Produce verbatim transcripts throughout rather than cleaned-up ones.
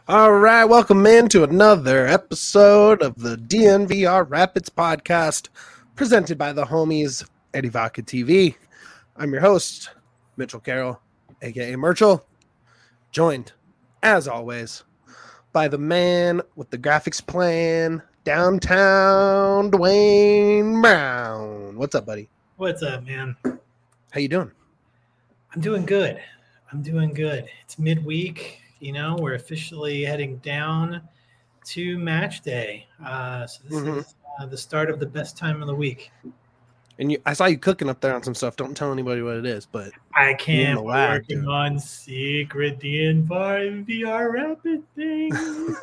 All right, welcome in to another episode of the D N V R Rapids podcast, presented by the homies Eddie Vodka T V. I'm your host, Mitchell Carroll, aka Merchel, joined, as always, by the man with the graphics plan, downtown Dwayne Brown. What's up, buddy? What's up, man? How you doing? I'm doing good. I'm doing good. It's midweek. You know, we're officially heading down to match day. Uh, so this Mhm. is uh, the start of the best time of the week. And you, I saw you cooking up there on some stuff. Don't tell anybody what it is, but I can't. the We're lab, working dude. on secret D N V R Rapid things.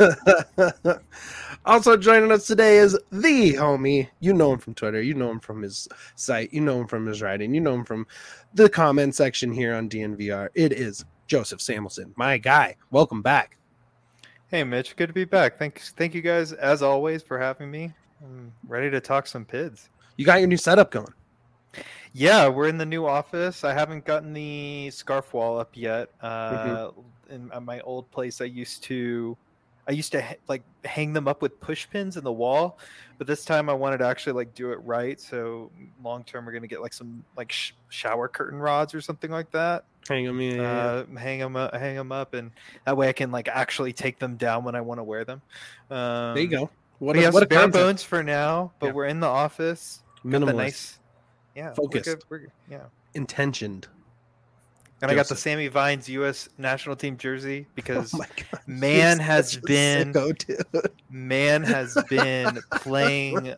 Also joining us today is the homie. You know him from Twitter. You know him from his site. You know him from his writing. You know him from the comment section here on D N V R. It is Joseph Samuelson, my guy. Welcome back. Hey, Mitch. Good to be back. Thanks, thank you guys, as always, for having me. I'm ready to talk some P I Ds. You got your new setup going. Yeah, we're in the new office. I haven't gotten the scarf wall up yet. Uh, mm-hmm. In at my old place, I used to, I used to ha- like hang them up with push pins in the wall, but this time I wanted to actually like do it right. So long term, we're gonna get like some like sh- shower curtain rods or something like that. Hang them, yeah, uh, yeah. hang them, up, hang them up, and that way I can like actually take them down when I want to wear them. Um, there you go. What we a, have what bare bones for now, but yeah. we're in the office. Minimalist. Nice, yeah, focused. We're good. We're good. Yeah, intentioned. And Joseph. I got the Sammy Vines U S national team jersey because oh my God. man He's has been sicko, man has been playing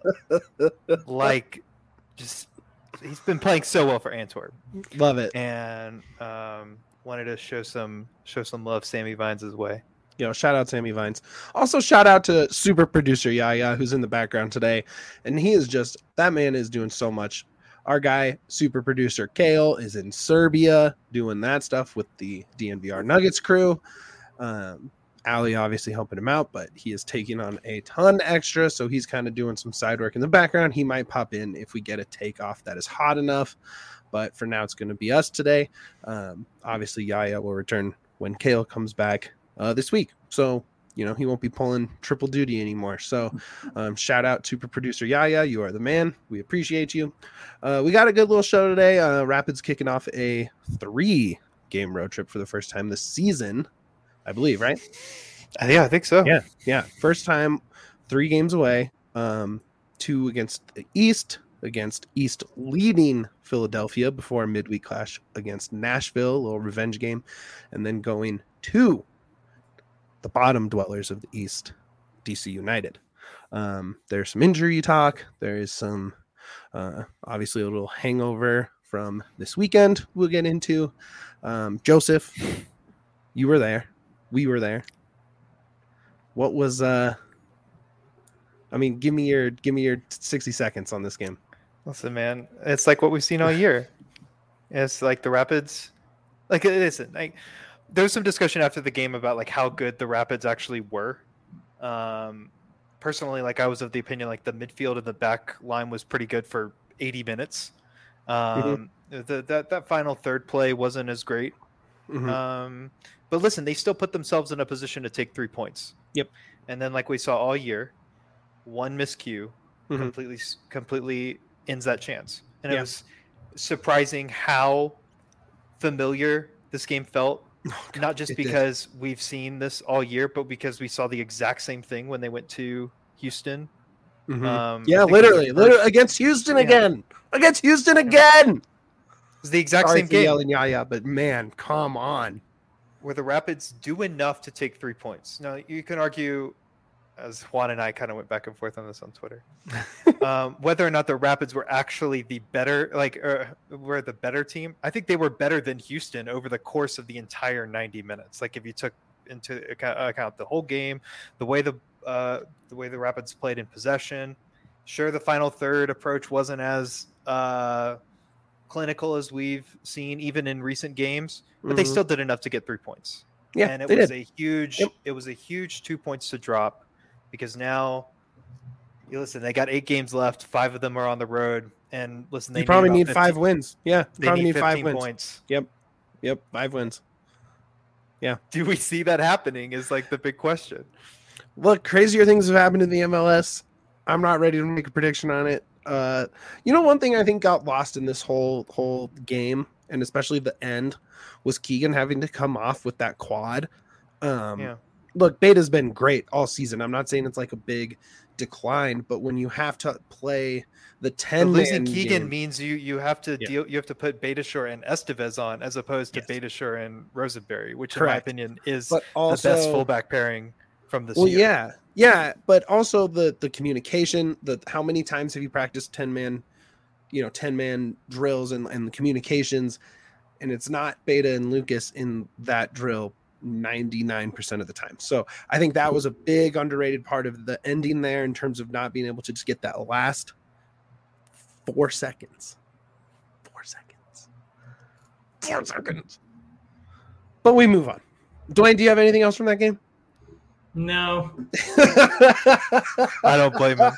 like just he's been playing so well for Antwerp. Love it. And um, wanted to show some show some love Sammy Vines' way. You know, shout out Sammy Vines. Also, shout out to super producer Yaya, who's in the background today. And he is just, that man is doing so much. Our guy, super producer Kale, is in Serbia doing that stuff with the D N V R Nuggets crew. Um, Ali obviously helping him out, but he is taking on a ton extra. So he's kind of doing some side work in the background. He might pop in if we get a takeoff that is hot enough. But for now, it's going to be us today. Um, obviously, Yaya will return when Kale comes back uh, this week. So, you know, he won't be pulling triple duty anymore. So um, shout out to producer Yaya. You are the man. We appreciate you. Uh, we got a good little show today. Uh, Rapids kicking off a three game road trip for the first time this season, I believe, right? Uh, yeah, I think so. Yeah. Yeah. First time, three games away, um, two against the East, against East leading Philadelphia before a midweek clash against Nashville, a little revenge game, and then going to the bottom dwellers of the East, D C United. Um, there's some injury talk. There is some, uh, obviously, a little hangover from this weekend we'll get into. Um, Joseph, you were there. We were there. What was, uh, I mean, give me your, give me your sixty seconds on this game. Listen, man, it's like what we've seen all year. It's like the Rapids, like, listen, like, there was some discussion after the game about like how good the Rapids actually were. Um, personally, like I was of the opinion like the midfield and the back line was pretty good for eighty minutes. Um, mm-hmm. the, that that final third play wasn't as great. Mm-hmm. Um, but listen, they still put themselves in a position to take three points. Yep. And then like we saw all year, one miscue mm-hmm. completely completely ends that chance. And yeah. It was surprising how familiar this game felt. Oh, God, not just because did. We've seen this all year, but because we saw the exact same thing when they went to Houston. Mm-hmm. Um, yeah, literally, literally against Houston yeah. again, against Houston again. It was the exact Sorry same game. Yelling, yeah, yeah, but man, come on. Where the Rapids do enough to take three points. Now you can argue, as Juan and I kind of went back and forth on this on Twitter, um, whether or not the Rapids were actually the better, like, uh, were the better team. I think they were better than Houston over the course of the entire ninety minutes. Like, if you took into account, account the whole game, the way the uh, the way the Rapids played in possession. Sure, the final third approach wasn't as uh, clinical as we've seen even in recent games, but mm-hmm. they still did enough to get three points. Yeah, and it was did. a huge. Yep. It was a huge two points to drop. Because now, you listen, they got eight games left. Five of them are on the road. And listen, they you probably need fifteen, five wins. Yeah, they probably need, need five wins. Points. Yep, yep, five wins. Yeah. Do we see that happening is like the big question. Look, crazier things have happened in the M L S. I'm not ready to make a prediction on it. Uh, you know, one thing I think got lost in this whole whole game, and especially the end, was Keegan having to come off with that quad. Um, Yeah. Look, Beta's been great all season. I'm not saying it's like a big decline, but when you have to play the ten, But losing man Keegan game, means you you have to Yeah. deal. You have to put Betashore and Estevez on as opposed to Yes. Betashore and Rosenberry, which Correct. in my opinion is but the also best fullback pairing from this well, year. yeah, yeah, but also the the communication. The how many times have you practiced ten man, you know, ten man drills and and the communications, and it's not Beta and Lucas in that drill ninety-nine percent of the time. So I think that was a big underrated part of the ending there in terms of not being able to just get that last four seconds. Four seconds. Four seconds. But we move on. Dwayne, do you have anything else from that game? No. I don't blame him.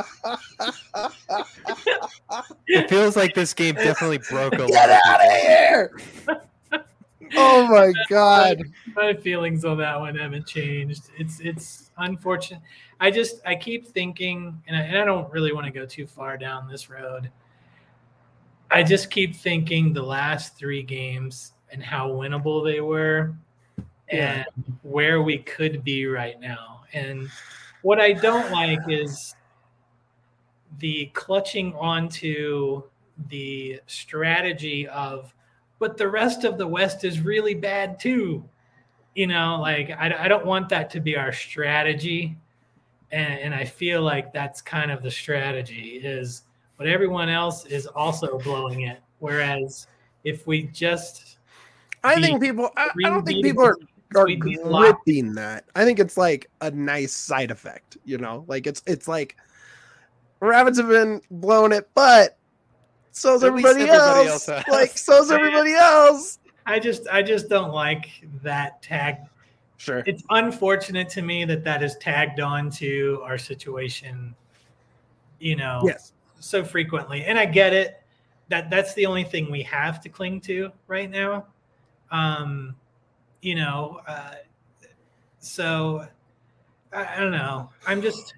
It feels like this game definitely broke a lot Get of out people. of here! Oh my god. My feelings on that one haven't changed. It's it's unfortunate. I just I keep thinking, and I, and I don't really want to go too far down this road. I just keep thinking the last three games and how winnable they were, Yeah. and where we could be right now. And what I don't like is the clutching onto the strategy of, but the rest of the West is really bad too. You know, like I, I don't want that to be our strategy. And, and I feel like that's kind of the strategy is, but everyone else is also blowing it. Whereas if we just, I beat think people I, I don't think three people are beatable are we'd be locked. gripping that. I think it's like a nice side effect, you know, like it's it's like Rabbits have been blowing it, but so's At least everybody, everybody else. else has. Like so's everybody else. I just I just don't like that tag. Sure. It's unfortunate to me that that is tagged on to our situation, you know, Yes. so frequently. And I get it. That that's the only thing we have to cling to right now. Um, you know, uh, so I, I don't know. I'm just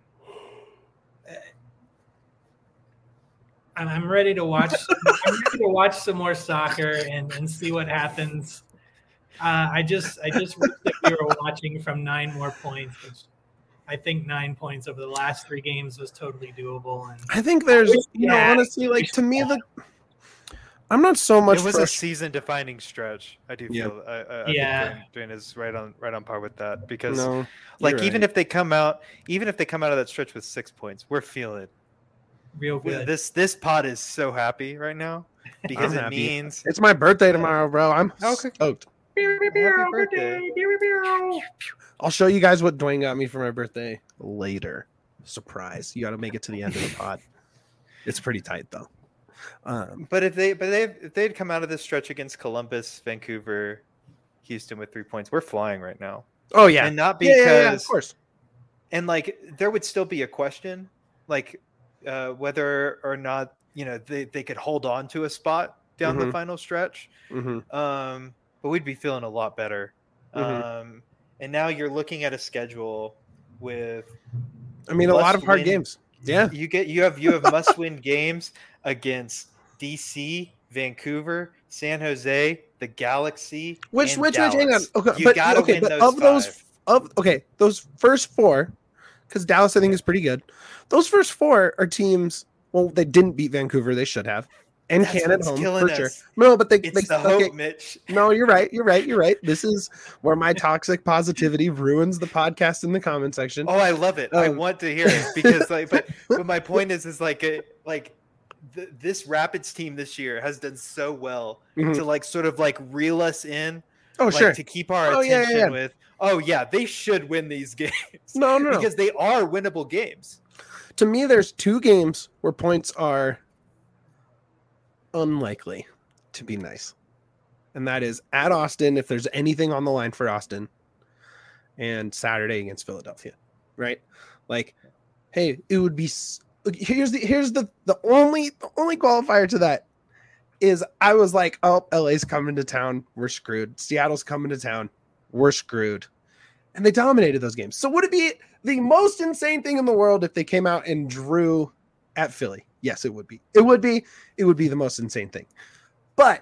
I'm, I'm ready to watch. I'm ready to watch some more soccer and, and see what happens. Uh, I just I just wish that we were watching from nine more points, which I think nine points over the last three games was totally doable. And I think there's, you know, Yeah. honestly, like to me, the I'm not so much. It was a frust- season-defining stretch. I do Yeah. feel. I, I, I Yeah. think Dwayne, Dwayne is right on right on par with that because, no, like, you're even right. if they come out, even if they come out of that stretch with six points, we're feeling real good. this. This pod is so happy right now because I'm it happy. means It's my birthday tomorrow, bro. I'm Okay. stoked. happy birthday. I'll show you guys what Dwayne got me for my birthday later. Surprise! You got to make it to the end of the pod. It's pretty tight though. Um, But if they, but they, if they'd come out of this stretch against Columbus, Vancouver, Houston with three points, we're flying right now. oh yeah, And not Yeah, because, yeah, yeah, of course. and like there would still be a question, like uh, whether or not you know they, they could hold on to a spot down the Mhm. final stretch. hmm Um, but we'd be feeling a lot better. Mhm. Um, and now you're looking at a schedule with I mean, a lot of hard Must-win. games. Yeah, you get you have you have must win games against D C, Vancouver, San Jose, the Galaxy, which and which which hang on. Dallas. Okay, You but gotta okay, win but those of those five. of okay, those first four, because Dallas I think is pretty good. Those first four are teams. Well, they didn't beat Vancouver. They should have. And That's Canada what's home killing for sure. us. No, but they, It's they the okay, hope, Mitch. No, you're right. You're right. You're right. This is where my toxic positivity ruins the podcast in the comment section. Oh, I love it. I Um, want to hear it because, like, but but my point is, is like, a, like th- this Rapids team this year has done so well Mhm. to like sort of like reel us in, Oh, like, sure. to keep our Oh, yeah, yeah, attention yeah. with. Oh yeah, they should win these games. No, no, no. because they are winnable games. To me, there's two games where points are unlikely to be nice. And that is at Austin, if there's anything on the line for Austin, and Saturday against Philadelphia, right? Like, hey, it would be s- here's the here's the the only the only qualifier to that is I was like, oh, L A's coming to town, we're screwed. Seattle's coming to town, we're screwed. And they dominated those games. So would it be the most insane thing in the world if they came out and drew at Philly? Yes, it would be. It would be. It would be the most insane thing. But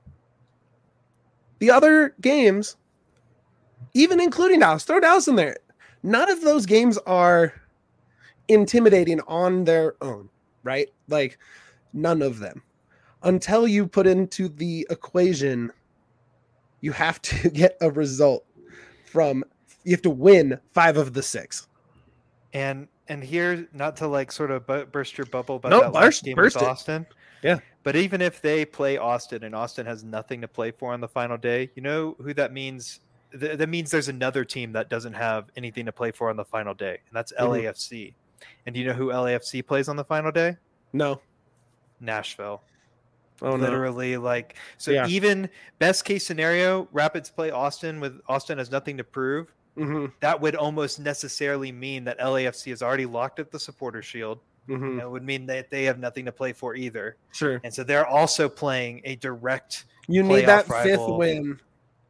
the other games, even including Dallas, throw Dallas in there. None of those games are intimidating on their own, right? Like, none of them. Until you put into the equation, you have to get a result from, you have to win five of the six. And and here, not to like sort of bu- burst your bubble, but No, that burst- last game burst with it. Austin. Yeah. But even if they play Austin and Austin has nothing to play for on the final day, you know who that means? Th- that means there's another team that doesn't have anything to play for on the final day, and that's Mhm. L A F C. And do you know who L A F C plays on the final day? No. Nashville. Oh, no. Literally, like, so Yeah. even best case scenario, Rapids play Austin with Austin has nothing to prove. Mm-hmm. That would almost necessarily mean that L A F C is already locked at the supporter shield. Mm-hmm. It would mean that they have nothing to play for either. Sure. And so they're also playing a direct You need that playoff fifth rival. win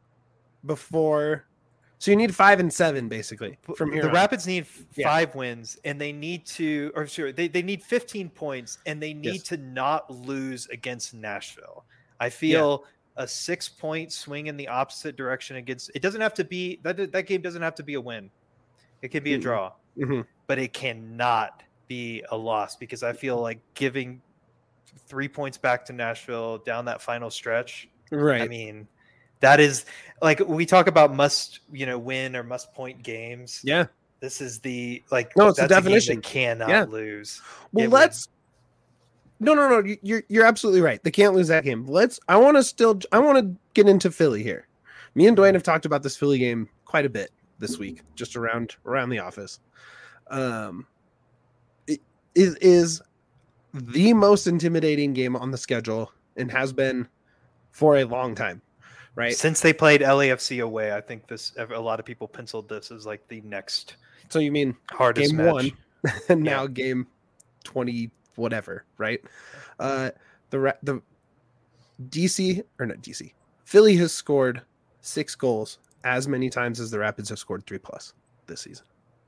before. So you need five and seven, basically, from here The on. Rapids need f- Yeah. five wins, and they need to, or sure, they, they need fifteen points, and they need Yes. to not lose against Nashville. I feel a six point swing in the opposite direction against, it doesn't have to be, that, that game doesn't have to be a win. It can be a Mm-mm. draw, Mhm. but it cannot be a loss, because I feel like giving three points back to Nashville down that final stretch, Right. I mean, that is like, we talk about must, you know, win or must point games. Yeah. This is the like. No, it's the that's a game definition. they cannot Yeah. lose. Well, It would- let's. No, no, no. you- You're you're absolutely right. They can't lose that game. Let's. I want to still. I want to get into Philly here. Me and Dwayne have talked about this Philly game quite a bit this week, just around around the office. Um, it is is the most intimidating game on the schedule and has been for a long time, right? Since they played L A F C away, I think this a lot of people penciled this as like the next So you mean hardest game match. one and now Yeah. game twenty whatever, right? Uh the Ra- the D C or not D C Philly has scored six goals as many times as the Rapids have scored three plus this season.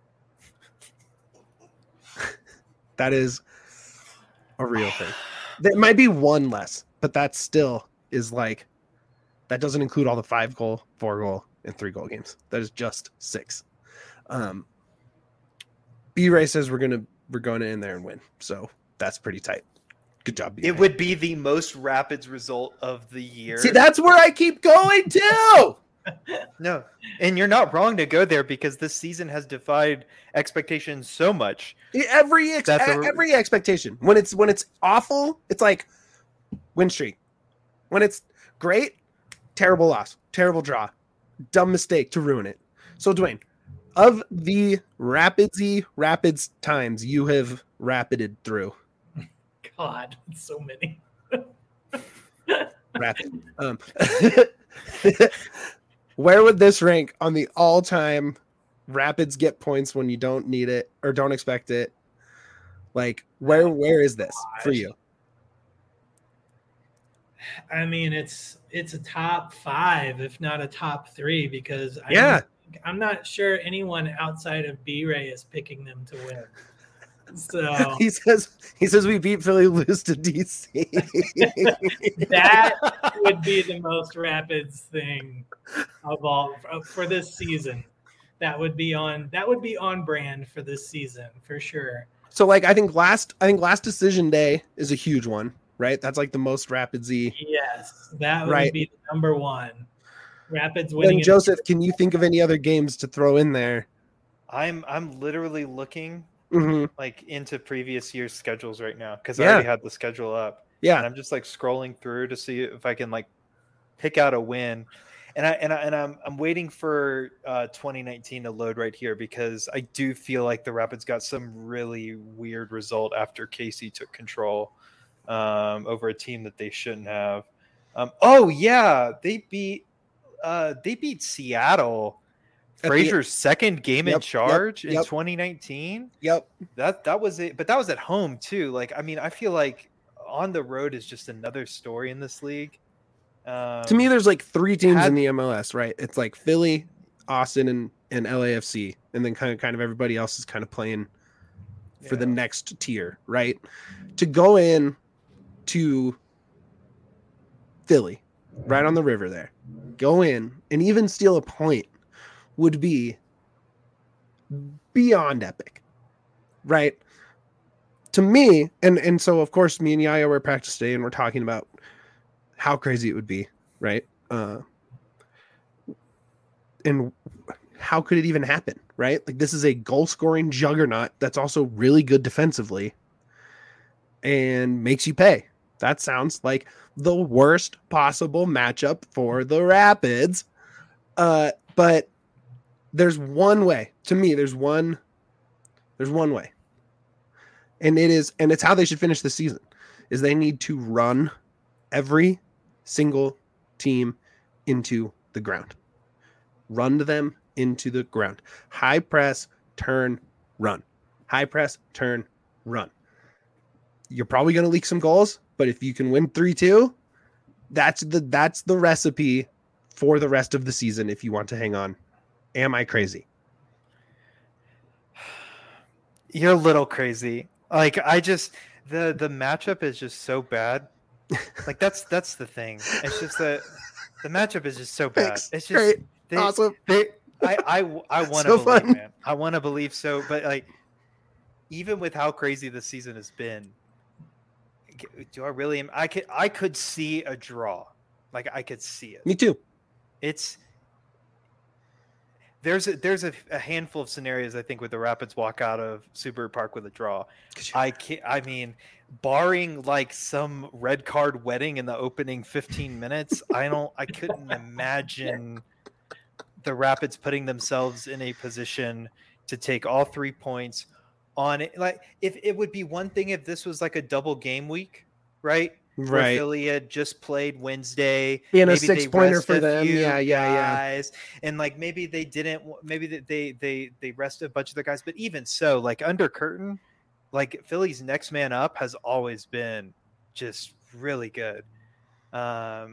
That is a real thing. There might be one less, but that still is like, that doesn't include all the five goal, four goal, and three goal games. That is just six. Um, B-Ray says we're gonna we're going in there and win, so that's pretty tight. Good job, B-Ray. It would be the most Rapids result of the year. See, that's where I keep going to. No, and you're not wrong to go there, because this season has defied expectations so much. Every ex- That's a- every expectation. When it's when it's awful, it's like win streak. When it's great, terrible loss, terrible draw, dumb mistake to ruin it. So Dwayne, of the Rapidsy Rapids times you have rapided through, God, so many. rapid. Um, where would this rank on the all-time Rapids get points when you don't need it or don't expect it? Like, where where is this for you? I mean, it's it's a top five, if not a top three, because I Yeah. don't- I'm not sure anyone outside of B-Ray is picking them to win. So He says he says we beat Philly, lose to D C. that would be the most Rapids thing of all for this season. That would be on that would be on brand for this season for sure. So like I think last I think last decision day is a huge one, right? That's like the most Rapidsy. Yes, that would Right. be the number one. Rapids winning. Then in- Joseph, can you think of any other games to throw in there? I'm I'm literally looking hmm like into previous year's schedules right now, because I Yeah. already had the schedule up. And Yeah. I'm just like scrolling through to see if I can like pick out a win. And I and I and I'm I'm waiting for uh, twenty nineteen to load right here, because I do feel like the Rapids got some really weird result after Casey took control um, over a team that they shouldn't have. Um, oh yeah, they beat uh, they beat Seattle. At the- Frazier's second game Yep, in yep, charge in yep. twenty nineteen. Yep. That that was it, but that was at home too. Like, I mean, I feel like on the road is just another story in this league. Um, To me, there's like three teams had- in the M L S, right? It's like Philly, Austin and, and L A F C, and then kind of kind of everybody else is kind of playing for Yeah. the next tier, right? To go in to Philly, right on the river there, go in and even steal a point would be beyond epic, right? To me, and and so of course me and Yaya were at practice today and we're talking about how crazy it would be, right? Uh, and how could it even happen, right? Like this is a goal scoring juggernaut that's also really good defensively and makes you pay. That sounds like the worst possible matchup for the Rapids. Uh, but there's one way. To me, there's one there's one way. And it is and it's how they should finish the season. Is they need to run every single team into the ground. Run them into the ground. High press, turn, run. High press, turn, run. You're probably going to leak some goals, but if you can win three two, that's the that's the recipe for the rest of the season if you want to hang on. Am I crazy? You're a little crazy. Like I just the the matchup is just so bad. Like that's that's the thing. It's just that the matchup is just so bad. Thanks. It's just Great. they, Awesome. They, I I I want to So believe, fun. man. I want to believe so, but like even with how crazy the season has been, do I really? I could I could see a draw. Like I could see it. Me too. It's there's a, there's a, a handful of scenarios I think with the Rapids walk out of Subaru Park with a draw. I can't, I mean, barring like some red card wedding in the opening fifteen minutes, I don't I couldn't imagine the Rapids putting themselves in a position to take all three points on it. Like if it would be one thing if this was like a double game week, right? Where Right. Philly had just played Wednesday, Being a maybe six they pointer rest for a them. few Yeah, yeah, yeah. guys, and like maybe they didn't, maybe they they they they rested a bunch of their guys, but even so, like under curtain, like Philly's next man up has always been just really good. Um,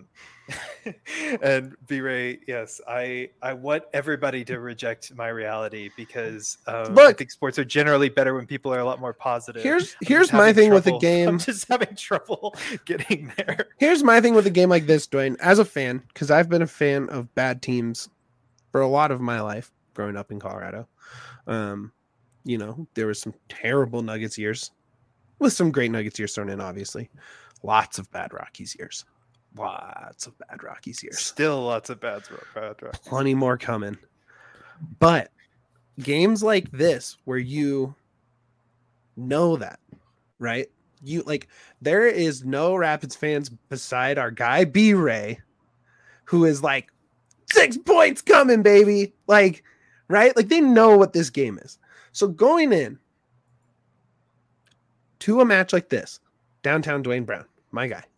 and B-Ray, yes, I I want everybody to reject my reality because um, I Look. think sports are generally better when people are a lot more positive. Here's I'm just here's my having thing with the trouble- game. I'm just having trouble getting there. Here's my thing with a game like this, Dwayne, as a fan, because I've been a fan of bad teams for a lot of my life growing up in Colorado. Um, you know, there was some terrible Nuggets years with some great Nuggets years thrown in, obviously. Lots of bad Rockies years. Lots of bad Rockies years. Still lots of bad, bad. Plenty more coming. But games like this where you know that, right? You like there is no Rapids fans beside our guy B-Ray who is like six points coming, baby. Like, right? Like they know what this game is. So going in to a match like this, downtown Dwayne Brown, my guy.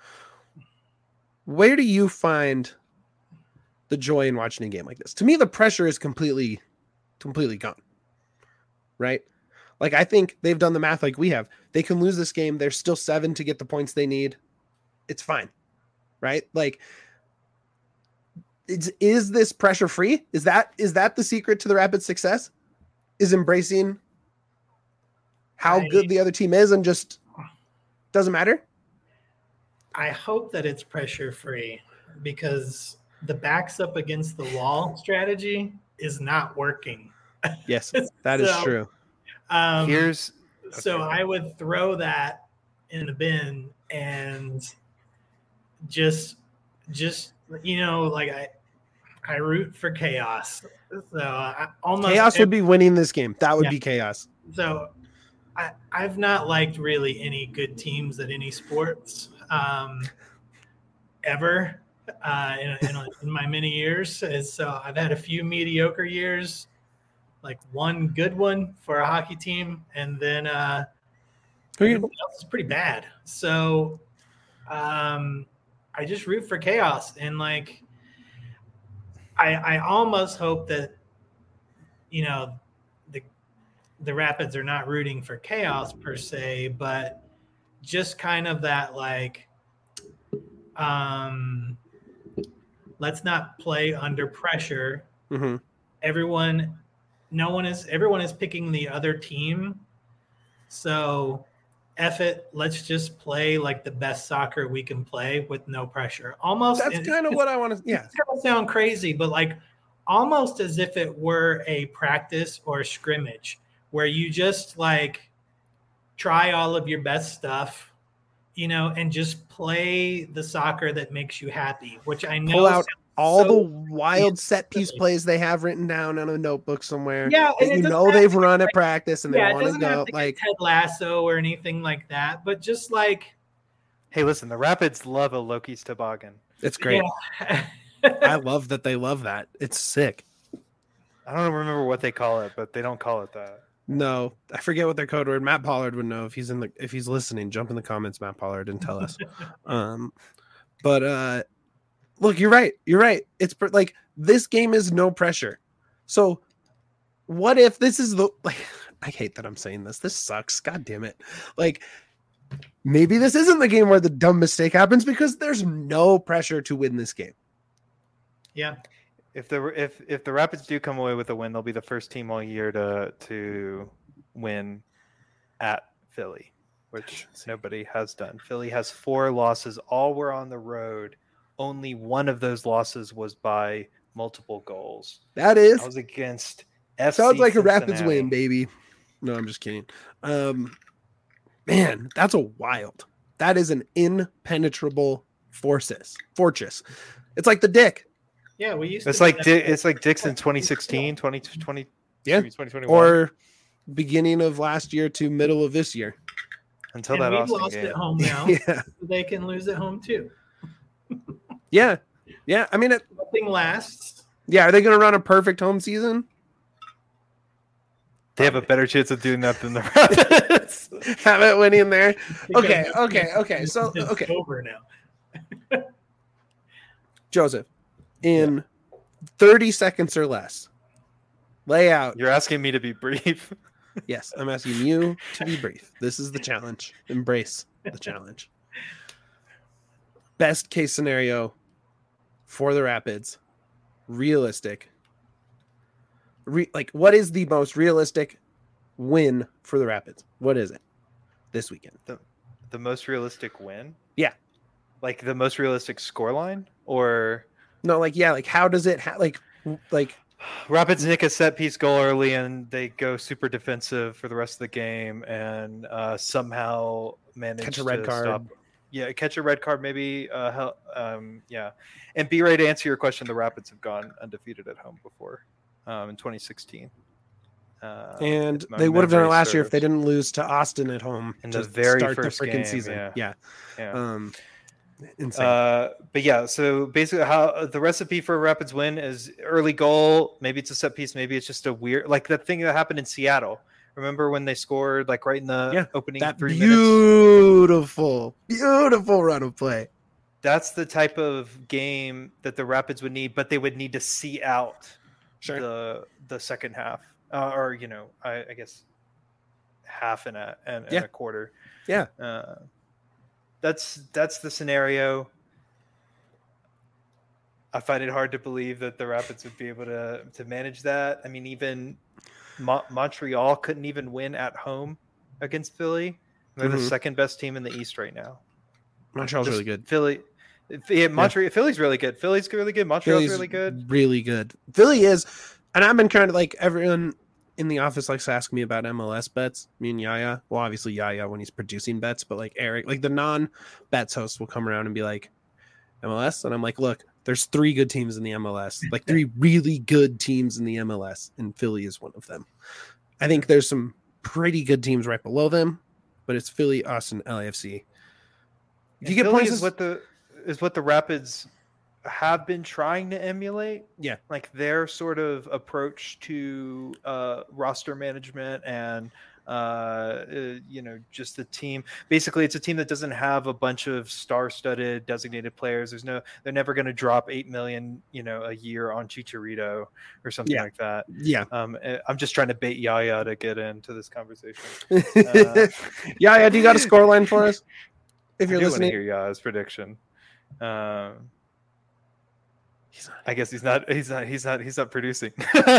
Where do you find the joy in watching a game like this? To me, the pressure is completely, completely gone. Right? Like, I think they've done the math like we have. They can lose this game. There's still seven to get the points they need. It's fine. Right? Like, it's, is this pressure free? Is that is that the secret to the Rapids' success? Is embracing how I- good the other team is and just doesn't matter? I hope that it's pressure free because the backs up against the wall strategy is not working. Yes, that is So, true. Um, Here's so okay. I would throw that in the bin and just, just you know, like I, I root for chaos. So I almost Chaos would be winning this game. That would Yeah. be chaos. So I, I've not liked really any good teams at any sports um, ever uh, in, in, in my many years. And so I've had a few mediocre years, like one good one for a hockey team, and then uh, Who you- everybody else is pretty bad. So um, I just root for chaos, and like I, I almost hope that you know the the Rapids are not rooting for chaos per se, but just kind of that like um let's not play under pressure Mhm. everyone, no one is, everyone is picking the other team. So F it, let's just play like the best soccer we can play with no pressure. Almost. That's kind of what I want to, yeah. It's going to sound crazy, but like almost as if it were a practice or a scrimmage where you just like try all of your best stuff, you know, and just play the soccer that makes you happy, which I know pull out all so the wild set piece plays they have written down on a notebook somewhere. Yeah, that and you it know doesn't they've have to run be at like- practice and yeah, they it want to doesn't have go to like get Ted Lasso or anything like that, but just like Hey, listen, the Rapids love a Loki's toboggan. it's great. yeah. I love that they love that. It's sick. I don't remember what they call it, but they don't call it that. No, I forget what their code word. Matt Pollard would know if he's in the if he's listening. Jump in the comments, Matt Pollard, and tell us. um, but uh, look, you're right. You're right. It's per- like this game is no pressure. So, what if this is the like? I hate that I'm saying this. This sucks. God damn it. Like, maybe this isn't the game where the dumb mistake happens because there's no pressure to win this game. yeah. If the if if the Rapids do come away with a win, they'll be the first team all year to to win at Philly, which nobody has done. Philly has four losses. All were on the road. Only one of those losses was by multiple goals. That is That was against F C sounds like a Rapids Cincinnati. win, baby. No, I'm just kidding. Um, man, that's a wild. That is an impenetrable forces fortress. It's like the dick. Yeah, we used It's to like do Di- that. it's like Dixon twenty sixteen, twenty twenty, Yeah. twenty twenty-one, Or beginning of last year to middle of this year. until and that we've Austin lost game. at home now. Yeah. They can lose at home too. Yeah. Yeah. I mean, it, Nothing lasts. yeah. Are they going to run a perfect home season? They have a better chance of doing that than the Rapids. Have it winning there. Because Okay, it's- okay, okay. So, it's okay. over now. Joseph, in thirty seconds or less, lay out. You're asking me to be brief. Yes, I'm asking you to be brief. This is the challenge. Embrace the challenge. Best case scenario for the Rapids. Realistic. Re- like, what is the most realistic win for the Rapids? What is it this weekend? The most realistic win? Yeah. Like the most realistic scoreline? Or No, like, yeah, like, how does it, ha- like, like, Rapids nick a set piece goal early and they go super defensive for the rest of the game and uh, somehow manage Catch a red to card. stop. Yeah, catch a red card, maybe. Uh, hel- um, yeah. And be ready to answer your question. The Rapids have gone undefeated at home before um, in twenty sixteen. Uh, and if my they would have done it memory last year if they serves. didn't lose to Austin at home In to the very start first the freaking game, season. yeah. Yeah. Yeah. Um, insane. Uh, but yeah, so basically, how the recipe for a Rapids win is early goal. Maybe it's a set piece. Maybe it's just a weird, like that thing that happened in Seattle. Remember when they scored like right in the Yeah, opening that three minutes? beautiful, beautiful run of play. That's the type of game that the Rapids would need, but they would need to see out Sure. the the second half, uh, or you know, I, I guess half and a and, and Yeah. a quarter. Yeah. Uh, that's that's the scenario. I find it hard to believe that the Rapids would be able to to manage that. I mean, even Mo- Montreal couldn't even win at home against Philly. They're the Mhm. second best team in the East right now. Montreal's Just really good. Philly, yeah, Montreal, Philly's really good. Philly's really good. Montreal's Philly's really good. Really good. Philly is, and I've been kind of like everyone in the office likes to ask me about M L S bets. Me and Yaya. Well, obviously Yaya when he's producing bets, but like Eric, like the non-bets host will come around and be like, M L S, and I'm like, look, there's three good teams in the M L S, like three really good teams in the M L S, and Philly is one of them. I think there's some pretty good teams right below them, but it's Philly, us, and L A F C. If you And get Philly points, is what the is what the Rapids have been trying to emulate. Yeah. Like their sort of approach to uh, roster management and uh, uh, you know, just the team. Basically, it's a team that doesn't have a bunch of star-studded designated players. There's no, they're never going to drop eight million, you know, a year on Chicharito or something Yeah. like that. yeah, Um, eh, I'm just trying to bait Yaya to get into this conversation. Uh, Yaya, do you got a score line for us? If I you're do listening, want to hear Yaya's prediction. Um, He's not, I guess he's not. He's not. He's not. He's not producing.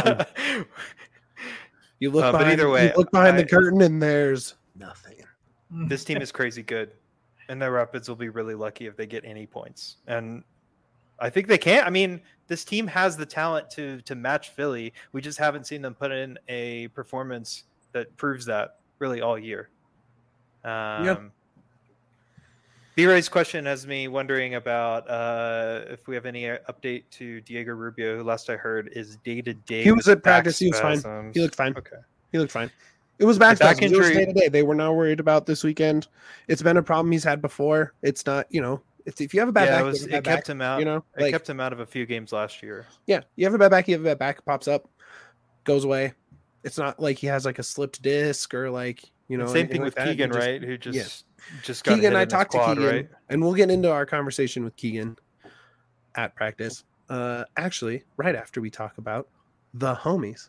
you look Uh, but behind, either way, you look behind I- the curtain and there's nothing. This team is crazy good, and the Rapids will be really lucky if they get any points. And I think they can. I mean, this team has the talent to to match Philly. We just haven't seen them put in a performance that proves that really all year. Um, Yeah. B-Ray's question has me wondering about uh, if we have any uh, update to Diego Rubio, who last I heard is day to day. He was at practice. He was fine. He looked fine. Okay. He looked fine. It was back, back spasms. It was injury- day to day. They were not worried about this weekend. It's been a problem he's had before. It's not, you know, it's, if you have a bad Yeah, back, it, you was, have a bad it kept back, him out. You know, it like, kept him out of a few games last year. yeah, you have a bad back, you have a bad back, pops up, goes away. It's not like he has like a slipped disc or like, you know, Same anything thing like with that. He Keegan, just- right? Who just yeah. just got Keegan, hit I in his talked to quad, Keegan, right? and we'll get into our conversation with Keegan at practice. Uh, actually, right after we talk about the homies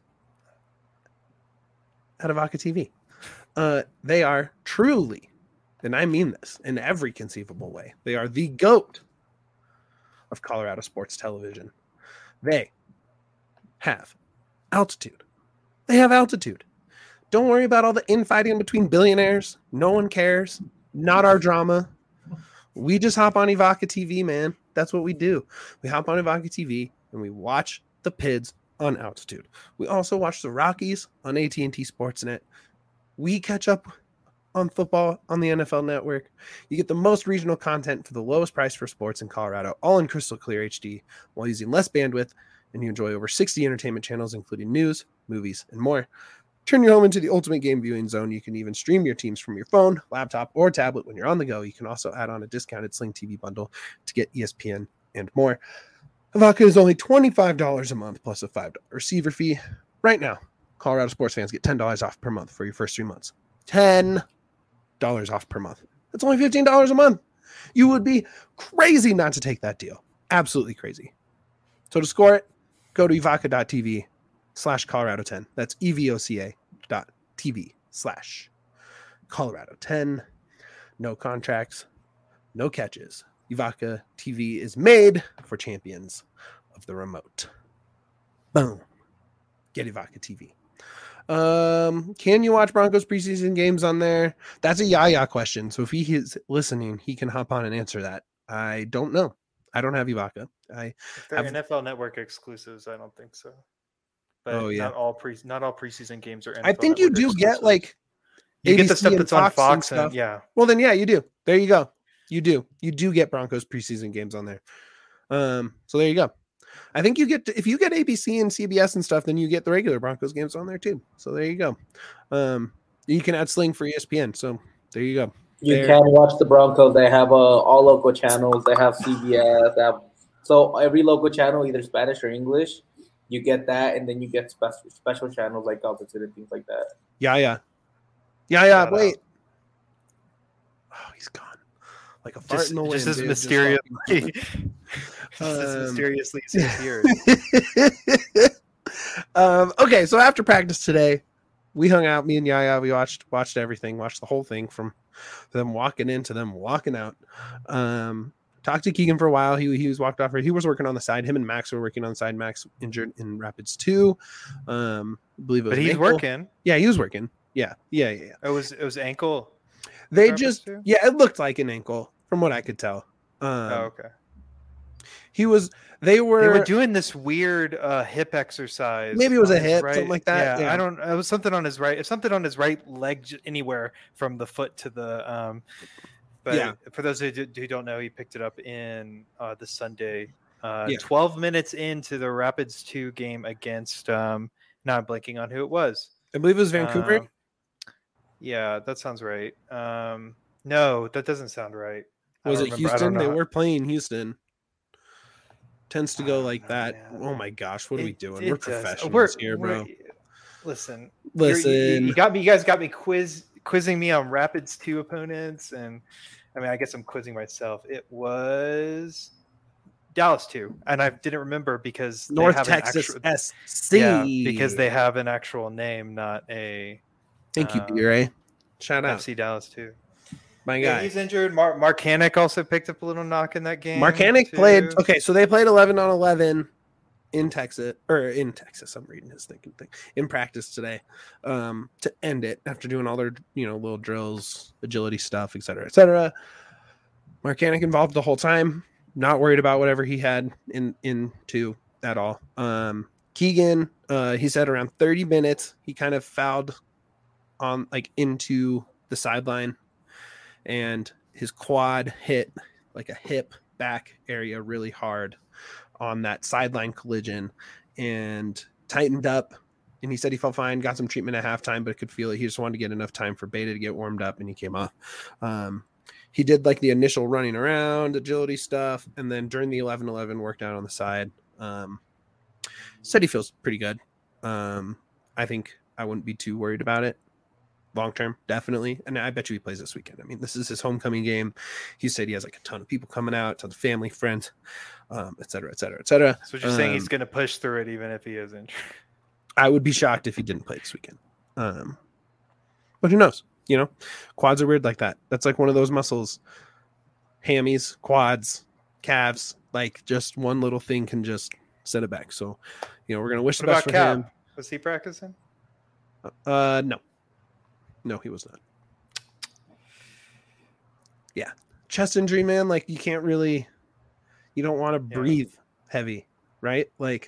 at Avaca T V. Uh, they are truly, and I mean this in every conceivable way, they are the GOAT of Colorado sports television. They have altitude. They have altitude. Don't worry about all the infighting between billionaires. No one cares. Not our drama. We just hop on Evoca T V, man. That's what we do. We hop on Evoca T V and we watch the Pids on altitude. We also watch the Rockies on A T and T Sportsnet. We catch up on football on the N F L Network. You get the most regional content for the lowest price for sports in Colorado, all in crystal clear H D, while using less bandwidth, and you enjoy over sixty entertainment channels, including news, movies, and more. Turn your home into the ultimate game viewing zone. You can even stream your teams from your phone, laptop, or tablet when you're on the go. You can also add on a discounted Sling T V bundle to get E S P N and more. Avaca is only twenty-five dollars a month plus a five dollars receiver fee. Right now, Colorado sports fans get ten dollars off per month for your first three months. ten dollars off per month. That's only fifteen dollars a month. You would be crazy not to take that deal. Absolutely crazy. So to score it, go to evoca.tv slash Colorado 10. That's E-V-O-C-A dot TV slash Colorado 10. No contracts, no catches. Evoca T V is made for champions of the remote. Boom. Get Evoca T V. Um, can you watch Broncos preseason games on there? That's a Yaya question. So if he is listening, he can hop on and answer that. I don't know. I don't have Evoca. I If they're Have- N F L Network exclusives, I don't think so. But Oh, yeah. not all pre not all preseason games are. N F L I think you Network do get exclusives. like you get the A B C stuff and that's on Fox and Fox and, stuff. yeah. Well, then, yeah, you do. There you go. You do. You do get Broncos preseason games on there. Um, so there you go. I think you get to, if you get A B C and C B S and stuff, then you get the regular Broncos games on there too. So there you go. Um, you can add Sling for E S P N. So there you go. You There- can watch the Broncos. They have uh, all local channels. They have C B S. They have, so every local channel, either Spanish or English, you get that, and then you get special special channels like altitude and things like that. Yeah, yeah, yeah, yeah. Shout Wait. Oh, he's gone. Like a fart Just, in the wind. just as dude. Just mysteriously, just as Um, mysteriously as he's here. um, okay, so after practice today, we hung out. Me and Yaya, we watched watched everything, watched the whole thing from them walking in to them walking out. Um, talked to Keegan for a while. He he was walked off. He was working on the side. Him and Max were working on the side. Max injured in Rapids two. Um, I believe it was But an he's ankle. working. Yeah, he was working. Yeah, yeah, yeah. yeah. It was it was ankle. They Rapids just two? yeah, it looked like an ankle from what I could tell. Um, oh, okay. He was. They were. They were doing this weird uh, hip exercise. Maybe it was on a his hip, something like that, Yeah, yeah. I don't. It was something on his right. It's something on his right leg, j- anywhere from the foot to the. Um, but Yeah. for those who, do, who don't know, he picked it up in uh, the Sunday. Uh, Yeah. twelve minutes into the Rapids two game against. Um, now I'm blanking on who it was. I believe it was Vancouver. Um, yeah, that sounds right. Um, no, that doesn't sound right. I Was don't it remember. I don't Houston? They know. were playing Houston. Tends to go Oh, like no, that. man. Oh my gosh, what are we It- doing? it We're does. professionals We're- here, we're- bro. Listen, you're- you- Listen, you, you got me. You guys got me quiz quizzing me on Rapids two opponents, and I mean, I guess I'm quizzing myself. It was Dallas two, and I didn't remember because they North have an Texas actual- S C. yeah, because they have an actual name, not a Thank you, uh, B-Ray. Shout out. F C Dallas two. My Yeah, guy. he's injured. Mark Mark Hannick also picked up a little knock in that game. Mark Hannick too. played. Okay, so they played eleven on eleven in Texas, or in Texas. I'm reading his thinking thing in practice today um, to end it after doing all their you know little drills, agility stuff, et cetera, et cetera. Mark Hannick involved the whole time. Not worried about whatever he had in into at all. Um, Keegan, uh, he said around thirty minutes, he kind of fouled on like into the sideline, and his quad hit like a hip back area really hard on that sideline collision and tightened up. And he said he felt fine, got some treatment at halftime, but could feel it. He just wanted to get enough time for Beta to get warmed up, and he came off. Um, he did like the initial running around, agility stuff, and then during the eleven eleven worked out on the side. Um, said he feels pretty good. Um, I think I wouldn't be too worried about it. Long term, definitely. And I bet you he plays this weekend. I mean, this is his homecoming game. He said he has like a ton of people coming out, tons of family, friends, um, et cetera, et cetera, et cetera. So you're um, saying he's going to push through it even if he is injured? I would be shocked if he didn't play this weekend. Um, but who knows? You know, quads are weird like that. That's like one of those muscles. Hammies, quads, calves, like just one little thing can just set it back. So, you know, we're going to wish What the best about for Cap? him. Was he practicing? Uh, no. No, he was not. Yeah. Chest injury, man. Like you can't really, you don't want to Yeah. breathe heavy, right? Like,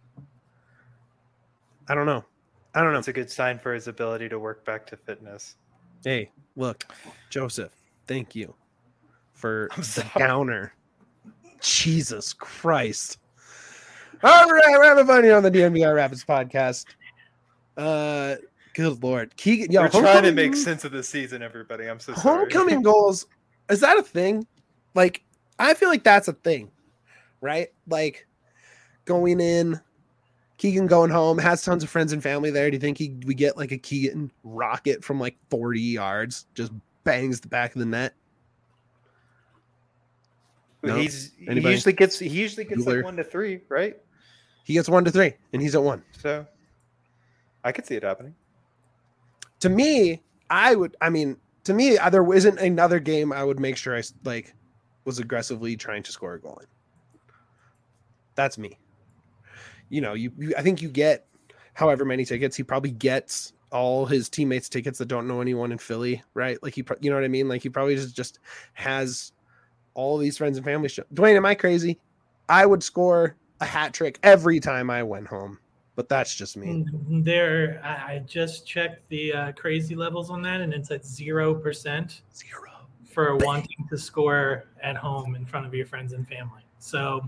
I don't know. I don't know. That's a good sign for his ability to work back to fitness. Hey, look, Joseph, thank you for I'm the sorry. downer. Jesus Christ. All right, we're having fun here on the D N V R Rapids podcast. Uh, good Lord. Keegan, yo, We're trying to homecoming- make sense of the season, everybody. I'm so sorry. homecoming goals, is that a thing? Like, I feel like that's a thing, right? Like, going in, Keegan going home, has tons of friends and family there. Do you think he we get like a Keegan rocket from like forty yards, just bangs the back of the net? No? He's he Anybody? usually gets he usually gets Bueller? like one to three, right? He gets one to three, and he's at one. So I could see it happening. To me, I would. I mean, to me, uh, there isn't another game I would make sure I like was aggressively trying to score a goal in. That's me. You know, you, you I think you get however many tickets. He probably gets all his teammates tickets that don't know anyone in Philly, right? Like he, pro- you know what I mean? Like he probably just just has all these friends and family. Show. Dwayne, am I crazy? I would score a hat trick every time I went home, but that's just me. There, I I just checked the uh, crazy levels on that, and it's at zero percent Zero. for wanting to score at home in front of your friends and family. So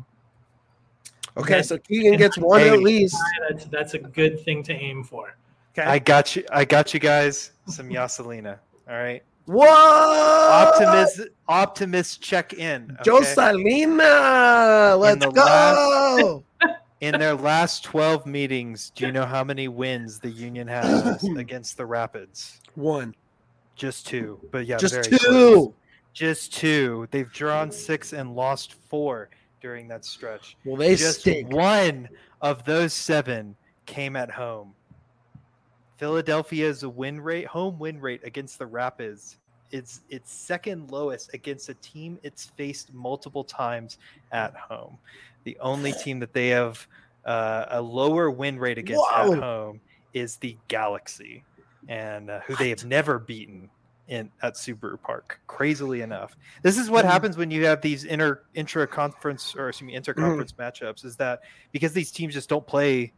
Okay, That- so Keegan gets one Hey. at least. that's that's a good thing to aim for. Okay. I got you. I got you guys some Yaselina. All right. What? Optimist. Optimist. Check in. Joe okay? Salina, let's the go. In their last twelve meetings, do you know how many wins the Union has against the Rapids? One, Just two. But yeah, just very two. close. Just two. They've drawn six and lost four during that stretch. Well, they Just stink. one of those seven came at home. Philadelphia's win rate, home win rate against the Rapids, it's its second lowest against a team it's faced multiple times at home. The only team that they have uh, a lower win rate against Whoa. at home is the Galaxy, and uh, who they have never beaten in at Subaru Park. Crazily enough, this is what Mm. happens when you have these inter intra conference or excuse me interconference matchups. Is that because these teams just don't play,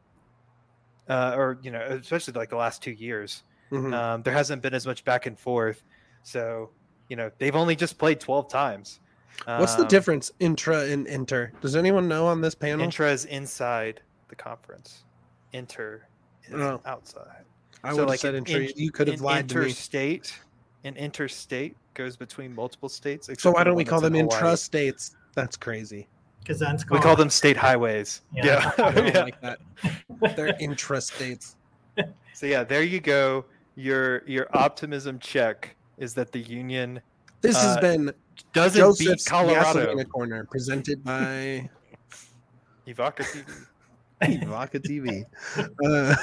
uh, or you know, especially like the last two years, Mhm. um, there hasn't been as much back and forth. So you know, they've only just played twelve times. What's the Um, difference intra and inter? Does anyone know on this panel? Intra is inside the conference. Inter is Oh. outside. I So, would have like, said an inter. in- You could have An lied to me. interstate, an interstate goes between multiple states. So except why for the don't we one call that's them in Hawaii. intrastates? That's crazy. Because that's We call them state highways. Yeah. Yeah. I don't Yeah. like that. They're intrastates. So yeah, there you go. Your your optimism check is that the Union This has Uh, been doesn't Joseph's beat Colorado. Yaselina Corner, presented by Evoca T V. Vodka T V. Uh,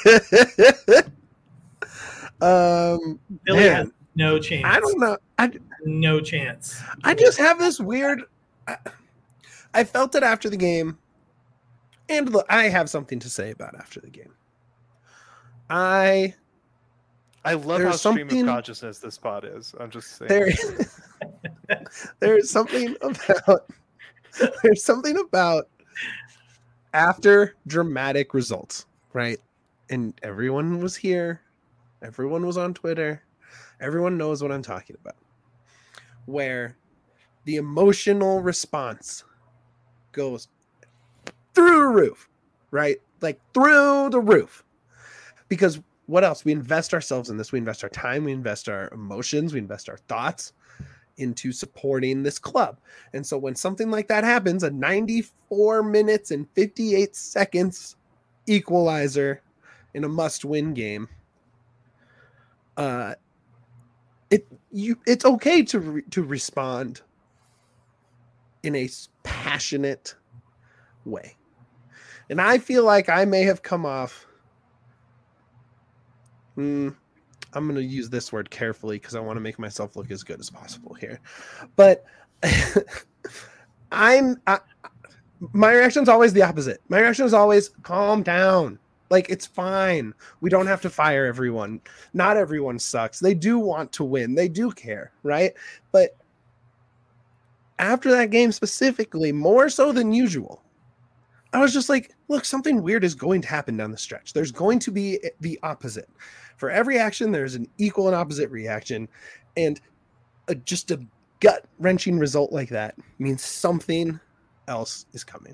um, Billy has man, no chance. I don't know. I, no chance. I just have this weird. I, I felt it after the game, and look, I have something to say about after the game. I I love There's how stream something- of consciousness this pod is. I'm just saying. there, there's something about there's something about after dramatic results, right? And everyone was here, everyone was on Twitter, everyone knows what I'm talking about. Where the emotional response goes through the roof, right? Like through the roof. Because what else? We invest ourselves in this. We invest our time. We invest our emotions. We invest our thoughts into supporting this club. And so when something like that happens, a ninety-four minutes and fifty-eight seconds equalizer in a must-win game, uh, it you it's okay to re- to respond in a passionate way. And I feel like I may have come off Mm, I'm going to use this word carefully because I want to make myself look as good as possible here. But I'm I, my reaction is always the opposite. My reaction is always calm down. Like, it's fine. We don't have to fire everyone. Not everyone sucks. They do want to win. They do care, right? But after that game specifically, more so than usual, I was just like, look, something weird is going to happen down the stretch. There's going to be the opposite. For every action, there's an equal and opposite reaction. And a, just a gut-wrenching result like that means something else is coming.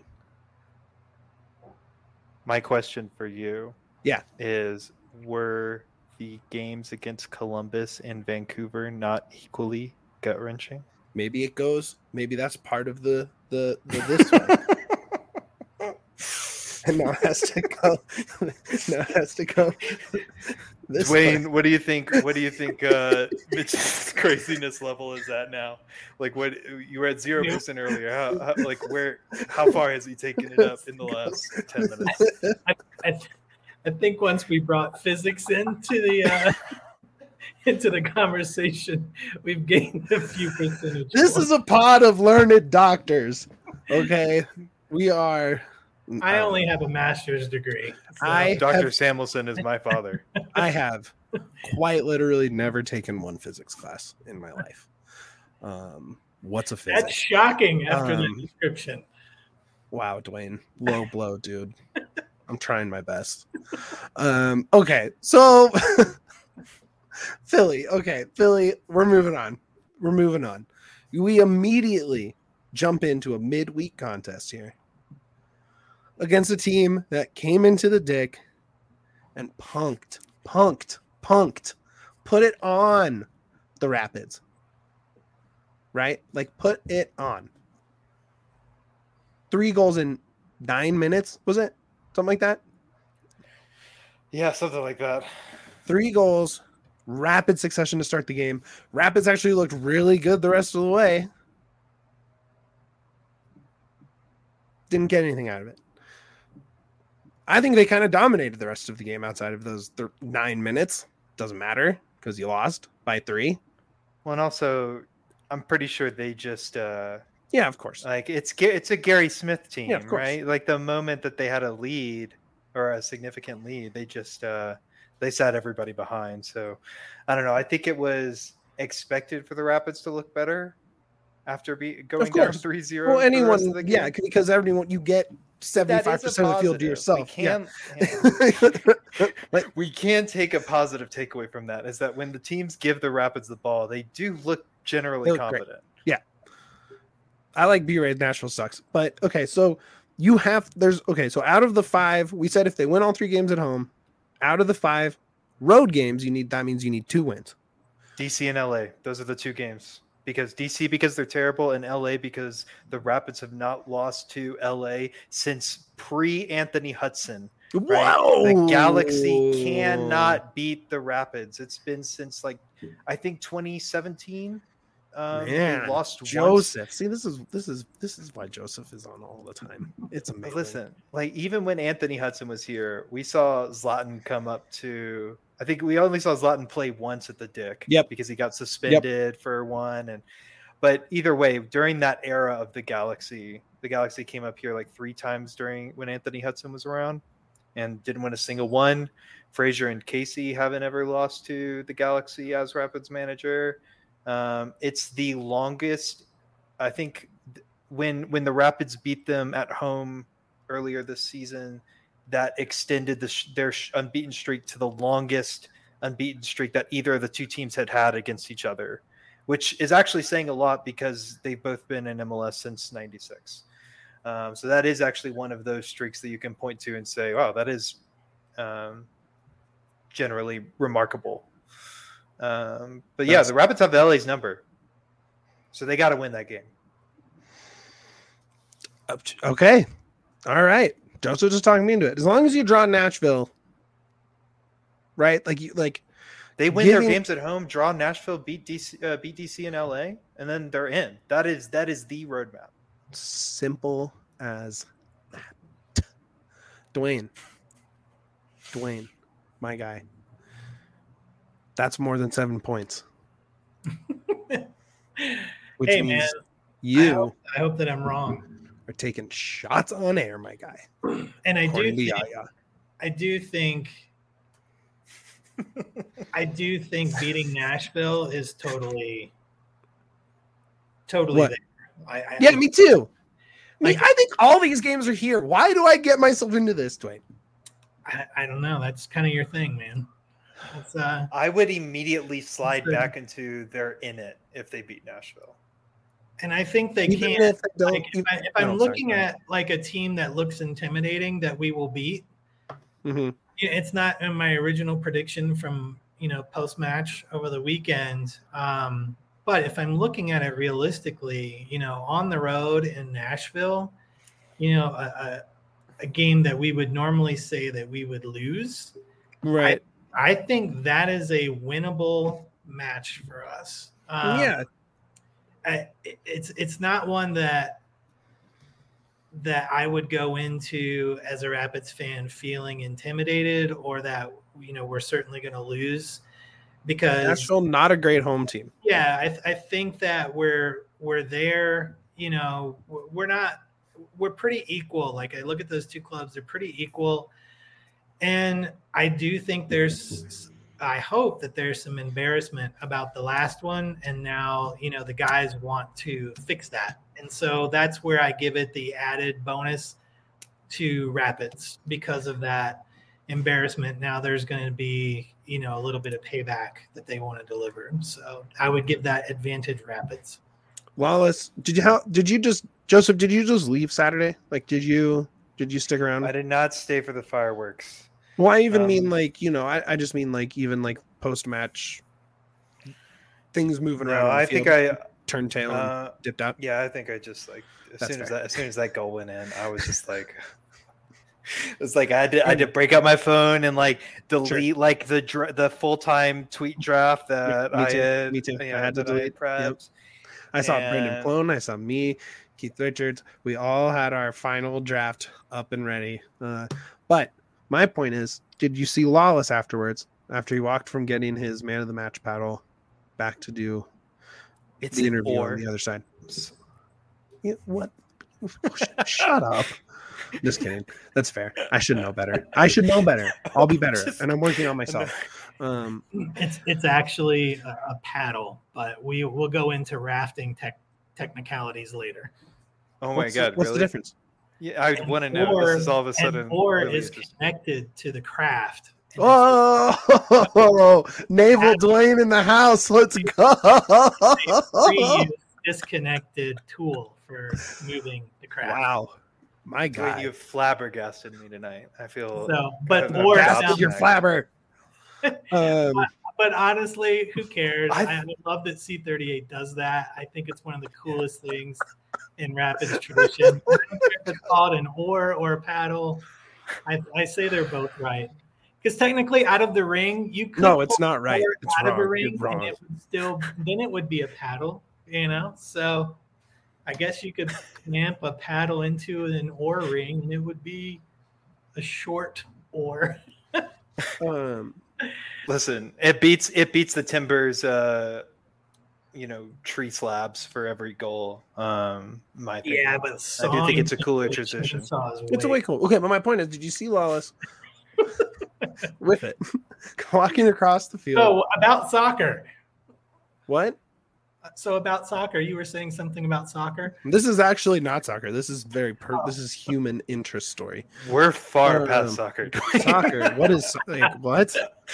My question for you Yeah. is, were the games against Columbus and Vancouver not equally gut-wrenching? Maybe it goes, maybe that's part of the, the, the this way. And now it has to go. Now it has to go. This Dwayne, way. what do you think? What do you think uh, Mitch's craziness level is at now? Like, what you were at zero percent earlier. How, how like where? How far has he taken it up in the last ten minutes? I, I, I think once we brought physics into the uh, into the conversation, we've gained a few percentage. This points. is a pod of learned doctors. Okay, we are. I only have a master's degree. so- I Doctor have- Samuelson is my father. I have quite literally never taken one physics class in my life. Um, what's a That's physics? shocking after Um, that description. Wow, Dwayne, low blow, dude. I'm trying my best. Um, okay, so Philly. Okay, Philly. We're moving on. We're moving on. We immediately jump into a midweek contest here against a team that came into the dick and punked, punked, punked, put it on the Rapids. Right? Like, put it on. Three goals in nine minutes, was it? Something like that? Yeah, something like that. Three goals, rapid succession to start the game. Rapids actually looked really good the rest of the way. Didn't get anything out of it. I think they kind of dominated the rest of the game outside of those th- nine minutes. Doesn't matter because you lost by three. Well, and also, I'm pretty sure they just uh, Yeah, of course. like it's Ga- it's a Gary Smith team, Yeah, of course. right? Like the moment that they had a lead or a significant lead, they just uh, they sat everybody behind. So I don't know. I think it was expected for the Rapids to look better after be going down course. three zero. Well, for the rest anyone, of the yeah, game. because everyone, you get That seventy-five is a percent of the field to positive. yourself. We Yeah. can, Like, we can take a positive takeaway from that is that when the teams give the Rapids the ball, they do look generally They look great. competent. I like B-Ray. Nashville sucks. But okay, so you have there's okay, so out of the five, we said if they win all three games at home, out of the five road games, you need that means you need two wins. D C and L A, those are the two games. Because D C because they're terrible, and L A because the Rapids have not lost to L A since pre-Anthony Hudson. Right? The Galaxy cannot beat the Rapids. It's been since like I think twenty seventeen. Um, Man, they lost Joseph. once. See, this is this is this is why Joseph is on all the time. It's But amazing. listen, like even when Anthony Hudson was here, we saw Zlatan come up to. I think we only saw Zlatan play once at the Dick. Yep. Because he got suspended for one, and but either way, during that era of the Galaxy, the Galaxy came up here like three times during when Anthony Hudson was around, and didn't win a single one. Frazier and Casey haven't ever lost to the Galaxy as Rapids manager. Um, it's the longest, I think, th- when when the Rapids beat them at home earlier this season, that extended the sh- their sh- unbeaten streak to the longest unbeaten streak that either of the two teams had had against each other, which is actually saying a lot because they've both been in M L S since ninety-six. Um, so that is actually one of those streaks that you can point to and say, wow, that is um, generally remarkable. Um, but yeah, That's- the Rapids have the L A's number, so they got to win that game. Up to- Okay. All right. Joseph just talking me into it. As long as you draw Nashville, right? Like you like They win Giving- their games at home, draw Nashville, beat D C, uh, beat D C and L A, and then they're in. That is that is the roadmap. simple as that. Dwayne. Dwayne, my guy. That's more than seven points. Which Hey, means man, I you hope, I hope that I'm wrong. are taking shots on air, my guy. And I do According to think, Yaya. I do think I do think beating Nashville is totally totally What? there. I, I, Yeah, me too. Me, Like- I think all these games are here. Why do I get myself into this, Dwayne? I, I don't know. That's kind of your thing, man. It's, uh, I would immediately slide Good. back into they're in it if they beat Nashville. and I think they Even can. if they don't, Like, if, even- I, if I'm No, sorry, looking go ahead. at like a team that looks intimidating that we will beat, Mhm. yeah, it's not in my original prediction from you know post match over the weekend. Um, but if I'm looking at it realistically, you know, on the road in Nashville, you know, a, a, a game that we would normally say that we would lose, Right. I think that is a winnable match for us. Um, yeah. I, it's it's not one that that I would go into as a Rapids fan feeling intimidated or that you know we're certainly going to lose because Nashville, not a great home team. yeah, I, th- I think that we're we're there. You know, we're we're not we're pretty equal. Like I look at those two clubs, they're pretty equal, and I do think there's. I hope that there's some embarrassment about the last one, and now you know the guys want to fix that, and so that's where I give it the added bonus to Rapids because of that embarrassment. Now there's going to be you know a little bit of payback that they want to deliver, so I would give that advantage Rapids. Wallace, did you how did you just Joseph? Did you just leave Saturday? Like, did you did you stick around? I did not stay for the fireworks. Well, I even Um, mean like you know, I, I just mean like even like post match things moving around. No, on the I think field, I turned tail and uh, dipped out. yeah, I think I just like as That's soon as fair. that as soon as that goal went in, I was just like it's like I had to I had to break out my phone and like delete like the dra- the full time tweet draft that me I too, had. me too. I yeah, had to that I delete, yep. prepped. I saw Brendan and- Plone. I saw me, Keith Richards. We all had our final draft up and ready. Uh, but my point is, did you see Lawless afterwards? After he walked from getting his man of the match paddle back to do It's the an interview or. on the other side. Yeah, what? Shut up. Just kidding. That's fair. I should know better. I should know better. I'll be better. Just- And I'm working on myself. Um, It's it's actually a, a paddle, but we will go into rafting tech technicalities later. Oh my what's the- god, what's really? the difference? Yeah, I And want to know. or- This is all of a and sudden or really is interesting. connected to the craft. And Oh, Naval Dwayne in the house. Let's it's a go. free disconnected tool for moving the craft. Wow. My Dwayne, God. you have flabbergasted me tonight. I feel So, but I've or adopted now, Bastard, you're flabber. Um, but honestly, who cares? I, I- I love that C thirty-eight does that. I think it's one of the coolest things in Rapids tradition. I don't care if it's called an oar or a paddle. I, I say they're both right. Because technically, out of the ring, you could no, it's pull not right. the oar It's out of a wrong. ring, You're and wrong. it would still then it would be a paddle. you know. So I guess you could clamp a paddle into an oar ring, and it would be a short oar. Um, Listen, it beats it beats the Timbers. Uh, you know, tree slabs for every goal. Um, in my opinion. Yeah, but I do think it's a cooler sawing transition. chainsaws it's a way way cool. Okay, but my point is, did you see Lawless with it walking across the field? Oh, about soccer. What? So about soccer, you were saying something about soccer. This is actually not soccer. This is very per- this is human interest story. We're far Um, past soccer. Soccer. What is like what?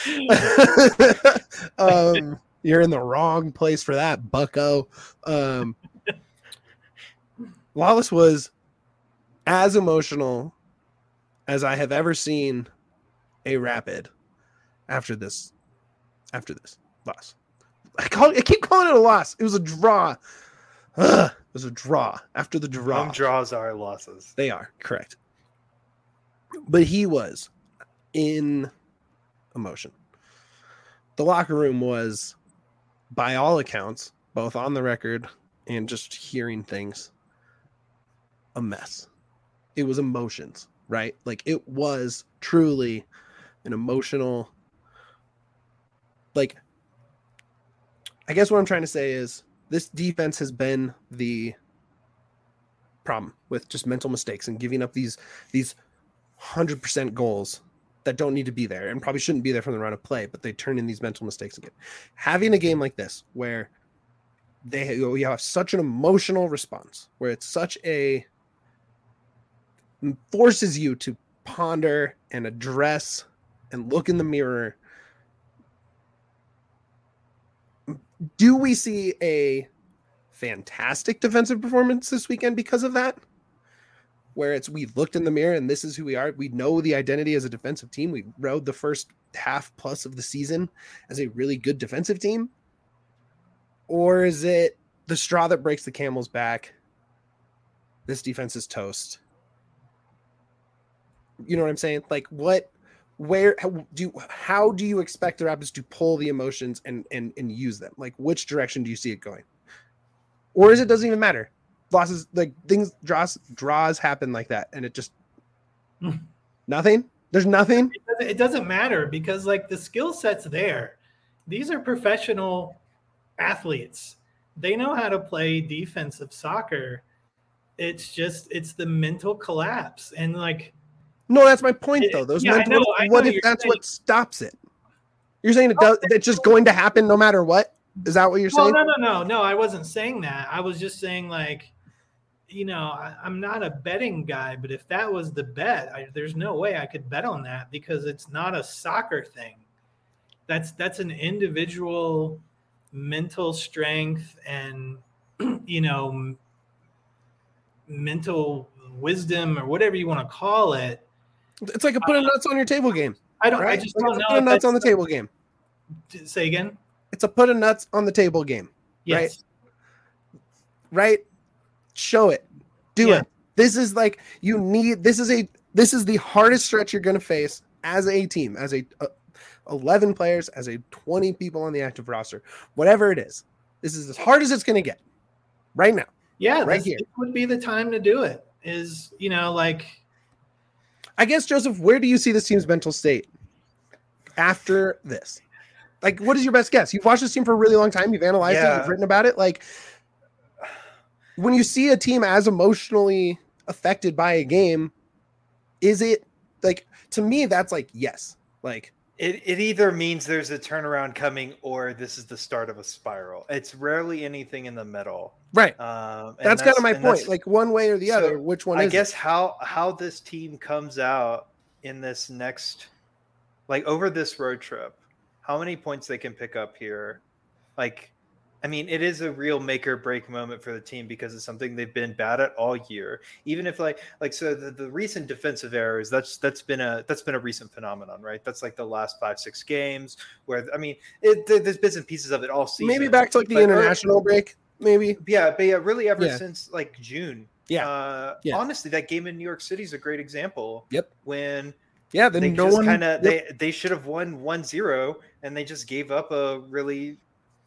um, you're in the wrong place for that, Bucko. Um, Lawless was as emotional as I have ever seen a Rapid after this. After this loss. I call I keep calling it a loss. It was a draw. Ugh, it was a draw after the draw. Home draws are losses. They are correct. But he was in emotion. The locker room was, by all accounts, both on the record and just hearing things, a mess. It was emotions, right? Like it was truly an emotional, like, I guess what I'm trying to say is this defense has been the problem with just mental mistakes and giving up these these one hundred percent goals that don't need to be there and probably shouldn't be there from the run of play, but they turn in these mental mistakes again. Having a game like this where they you have such an emotional response, where it's such a forces you to ponder and address and look in the mirror. Do we see a fantastic defensive performance this weekend because of that? Where it's we looked in the mirror and this is who we are. We know the identity as a defensive team. We rode the first half plus of the season as a really good defensive team. Or is it the straw that breaks the camel's back? This defense is toast. You know what I'm saying? Like what? Where how do you, how do you expect the Rapids to pull the emotions and, and and use them? Like which direction do you see it going? Or is it doesn't even matter? Losses, like things, draws draws happen like that, and it just nothing. There's nothing. It doesn't, it doesn't matter because like the skill set's there. These are professional athletes. They know how to play defensive soccer. It's just it's the mental collapse and like. No, that's my point, though. Those yeah, mental, I know, I what know if you're that's saying, what stops it? You're saying it does, it's just going to happen no matter what? Is that what you're well, saying? no, no, no, no. I wasn't saying that. I was just saying, like, you know, I, I'm not a betting guy, but if that was the bet, I, there's no way I could bet on that because it's not a soccer thing. That's that's an individual mental strength and, you know, m- mental wisdom or whatever you want to call it. It's like a put a nuts on your table game. I don't. Right? I just Like don't a know. put a if nuts that's- on the table game. Say again. It's a put a nuts on the table game. Yes. Right? Show it. Do Yeah. it. This is like you need. This is a. This is the hardest stretch you're going to face as a team, as a, a eleven players, as a twenty people on the active roster, whatever it is. This is as hard as it's going to get right now. Yeah, Right this, here. this would be the time to do it. Is you know like. I guess, Joseph, where do you see this team's mental state after this? Like, what is your best guess? You've watched this team for a really long time. You've analyzed Yeah. it. You've written about it. Like, when you see a team as emotionally affected by a game, is it like, to me, that's like, yes. Like, It it either means there's a turnaround coming or this is the start of a spiral. It's rarely anything in the middle. right. Um, and That's, kind of my and point. that's- Like, one way or the So, other, which one I is guess it? how how this team comes out in this next, like over this road trip, how many points they can pick up here. Like, I mean, it is a real make or break moment for the team because it's something they've been bad at all year. Even if like like so the, the recent defensive errors, that's that's been a that's been a recent phenomenon, right? That's like the last five six games where I mean, it, there's bits and pieces of it all season. Maybe back to like the But- international break, maybe. Yeah, but yeah, really ever Yeah. since like June. Yeah. Uh, Yeah. Honestly, that game in New York City is a great example. Yep. When Yeah, then they no just one kind of yep. they they should have won one zero and they just gave up a really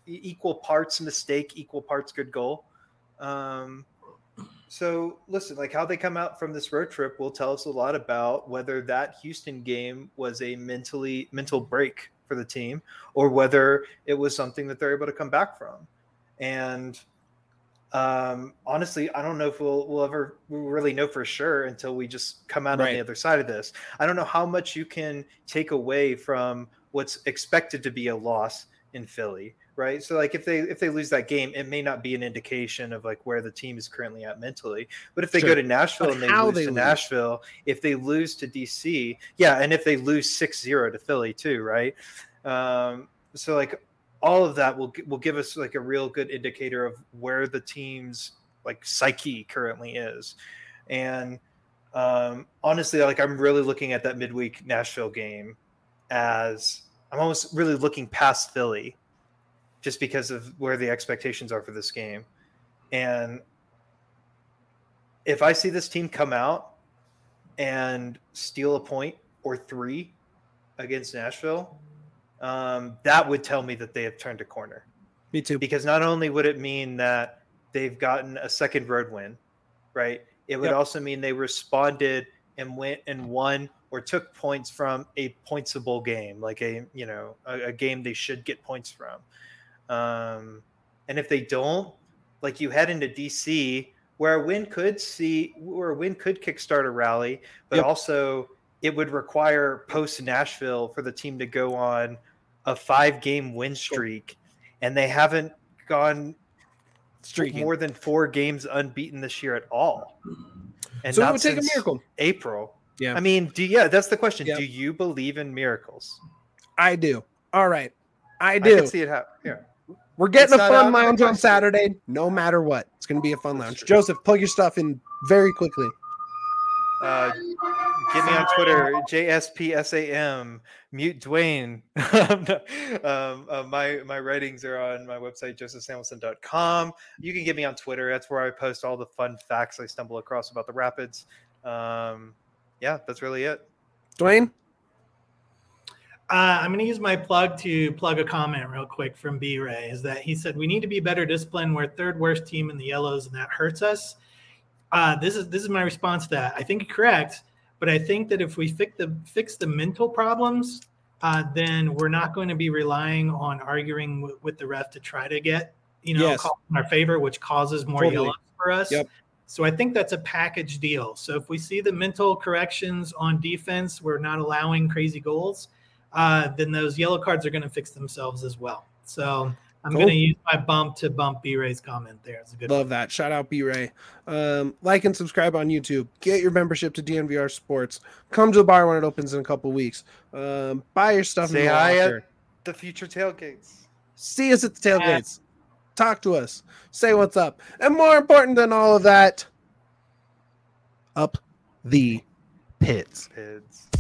e- equal parts mistake, equal parts good goal. Um, so listen, like how they come out from this road trip will tell us a lot about whether that Houston game was a mentally mental break for the team or whether it was something that they're able to come back from. And um, honestly, I don't know if we'll, we'll ever really know for sure until we just come out right on the other side of this. I don't know how much you can take away from what's expected to be a loss in Philly. Right. So like if they if they lose that game, it may not be an indication of like where the team is currently at mentally. But if they sure. go to Nashville but and they lose they to lose. Nashville, if they lose to D C, yeah, and if they lose six zero to Philly too, right? Um, so like all of that will will give us like a real good indicator of where the team's like psyche currently is. And um, honestly, like I'm really looking at that midweek Nashville game as I'm almost really looking past Philly. Just because of where the expectations are for this game. And if I see this team come out and steal a point or three against Nashville, um, that would tell me that they have turned a corner. Me too. Because not only would it mean that they've gotten a second road win, right? It would yep. also mean they responded and went and won or took points from a pointsable game, like a, you know, a, a game they should get points from. Um, and if they don't, like you head into D C, where a win could see, where a win could kickstart a rally, but yep. also it would require post Nashville for the team to go on a five-game win streak, and they haven't gone Streaking. more than four games unbeaten this year at all. And so not it would take a miracle. April. Yeah. I mean, do yeah, that's the question. Yep. Do you believe in miracles? I do. All right, I do. I can see it happen. Yeah. We're getting it's a fun lounge on Saturday, no matter what. It's going to be a fun lounge. Joseph, plug your stuff in very quickly. Uh, get me on Twitter, J S P S A M, mute Dwayne. um, uh, my my writings are on my website, joseph samuelson dot com. You can get me on Twitter. That's where I post all the fun facts I stumble across about the Rapids. Um, yeah, that's really it. Dwayne? Uh, I'm going to use my plug to plug a comment real quick from B-Ray, is that he said, we need to be better disciplined. We're third worst team in the yellows, and that hurts us. Uh, this is this is my response to that. I think you're correct, but I think that if we fix the, fix the mental problems, uh, then we're not going to be relying on arguing w- with the ref to try to get, you know, yes. call in our favor, which causes more totally. yellows for us. Yep. So I think that's a package deal. So if we see the mental corrections on defense, we're not allowing crazy goals, Uh, then those yellow cards are going to fix themselves as well. So I'm cool. going to use my bump to bump B-Ray's comment there. It's a good Love one. that. Shout out B-Ray. Um, like and subscribe on YouTube. Get your membership to D N V R Sports. Come to the bar when it opens in a couple weeks. Um, buy your stuff. Say in the hi locker. at the future tailgates. See us at the tailgates. Talk to us. Say what's up. And more important than all of that, up the pits. Pits.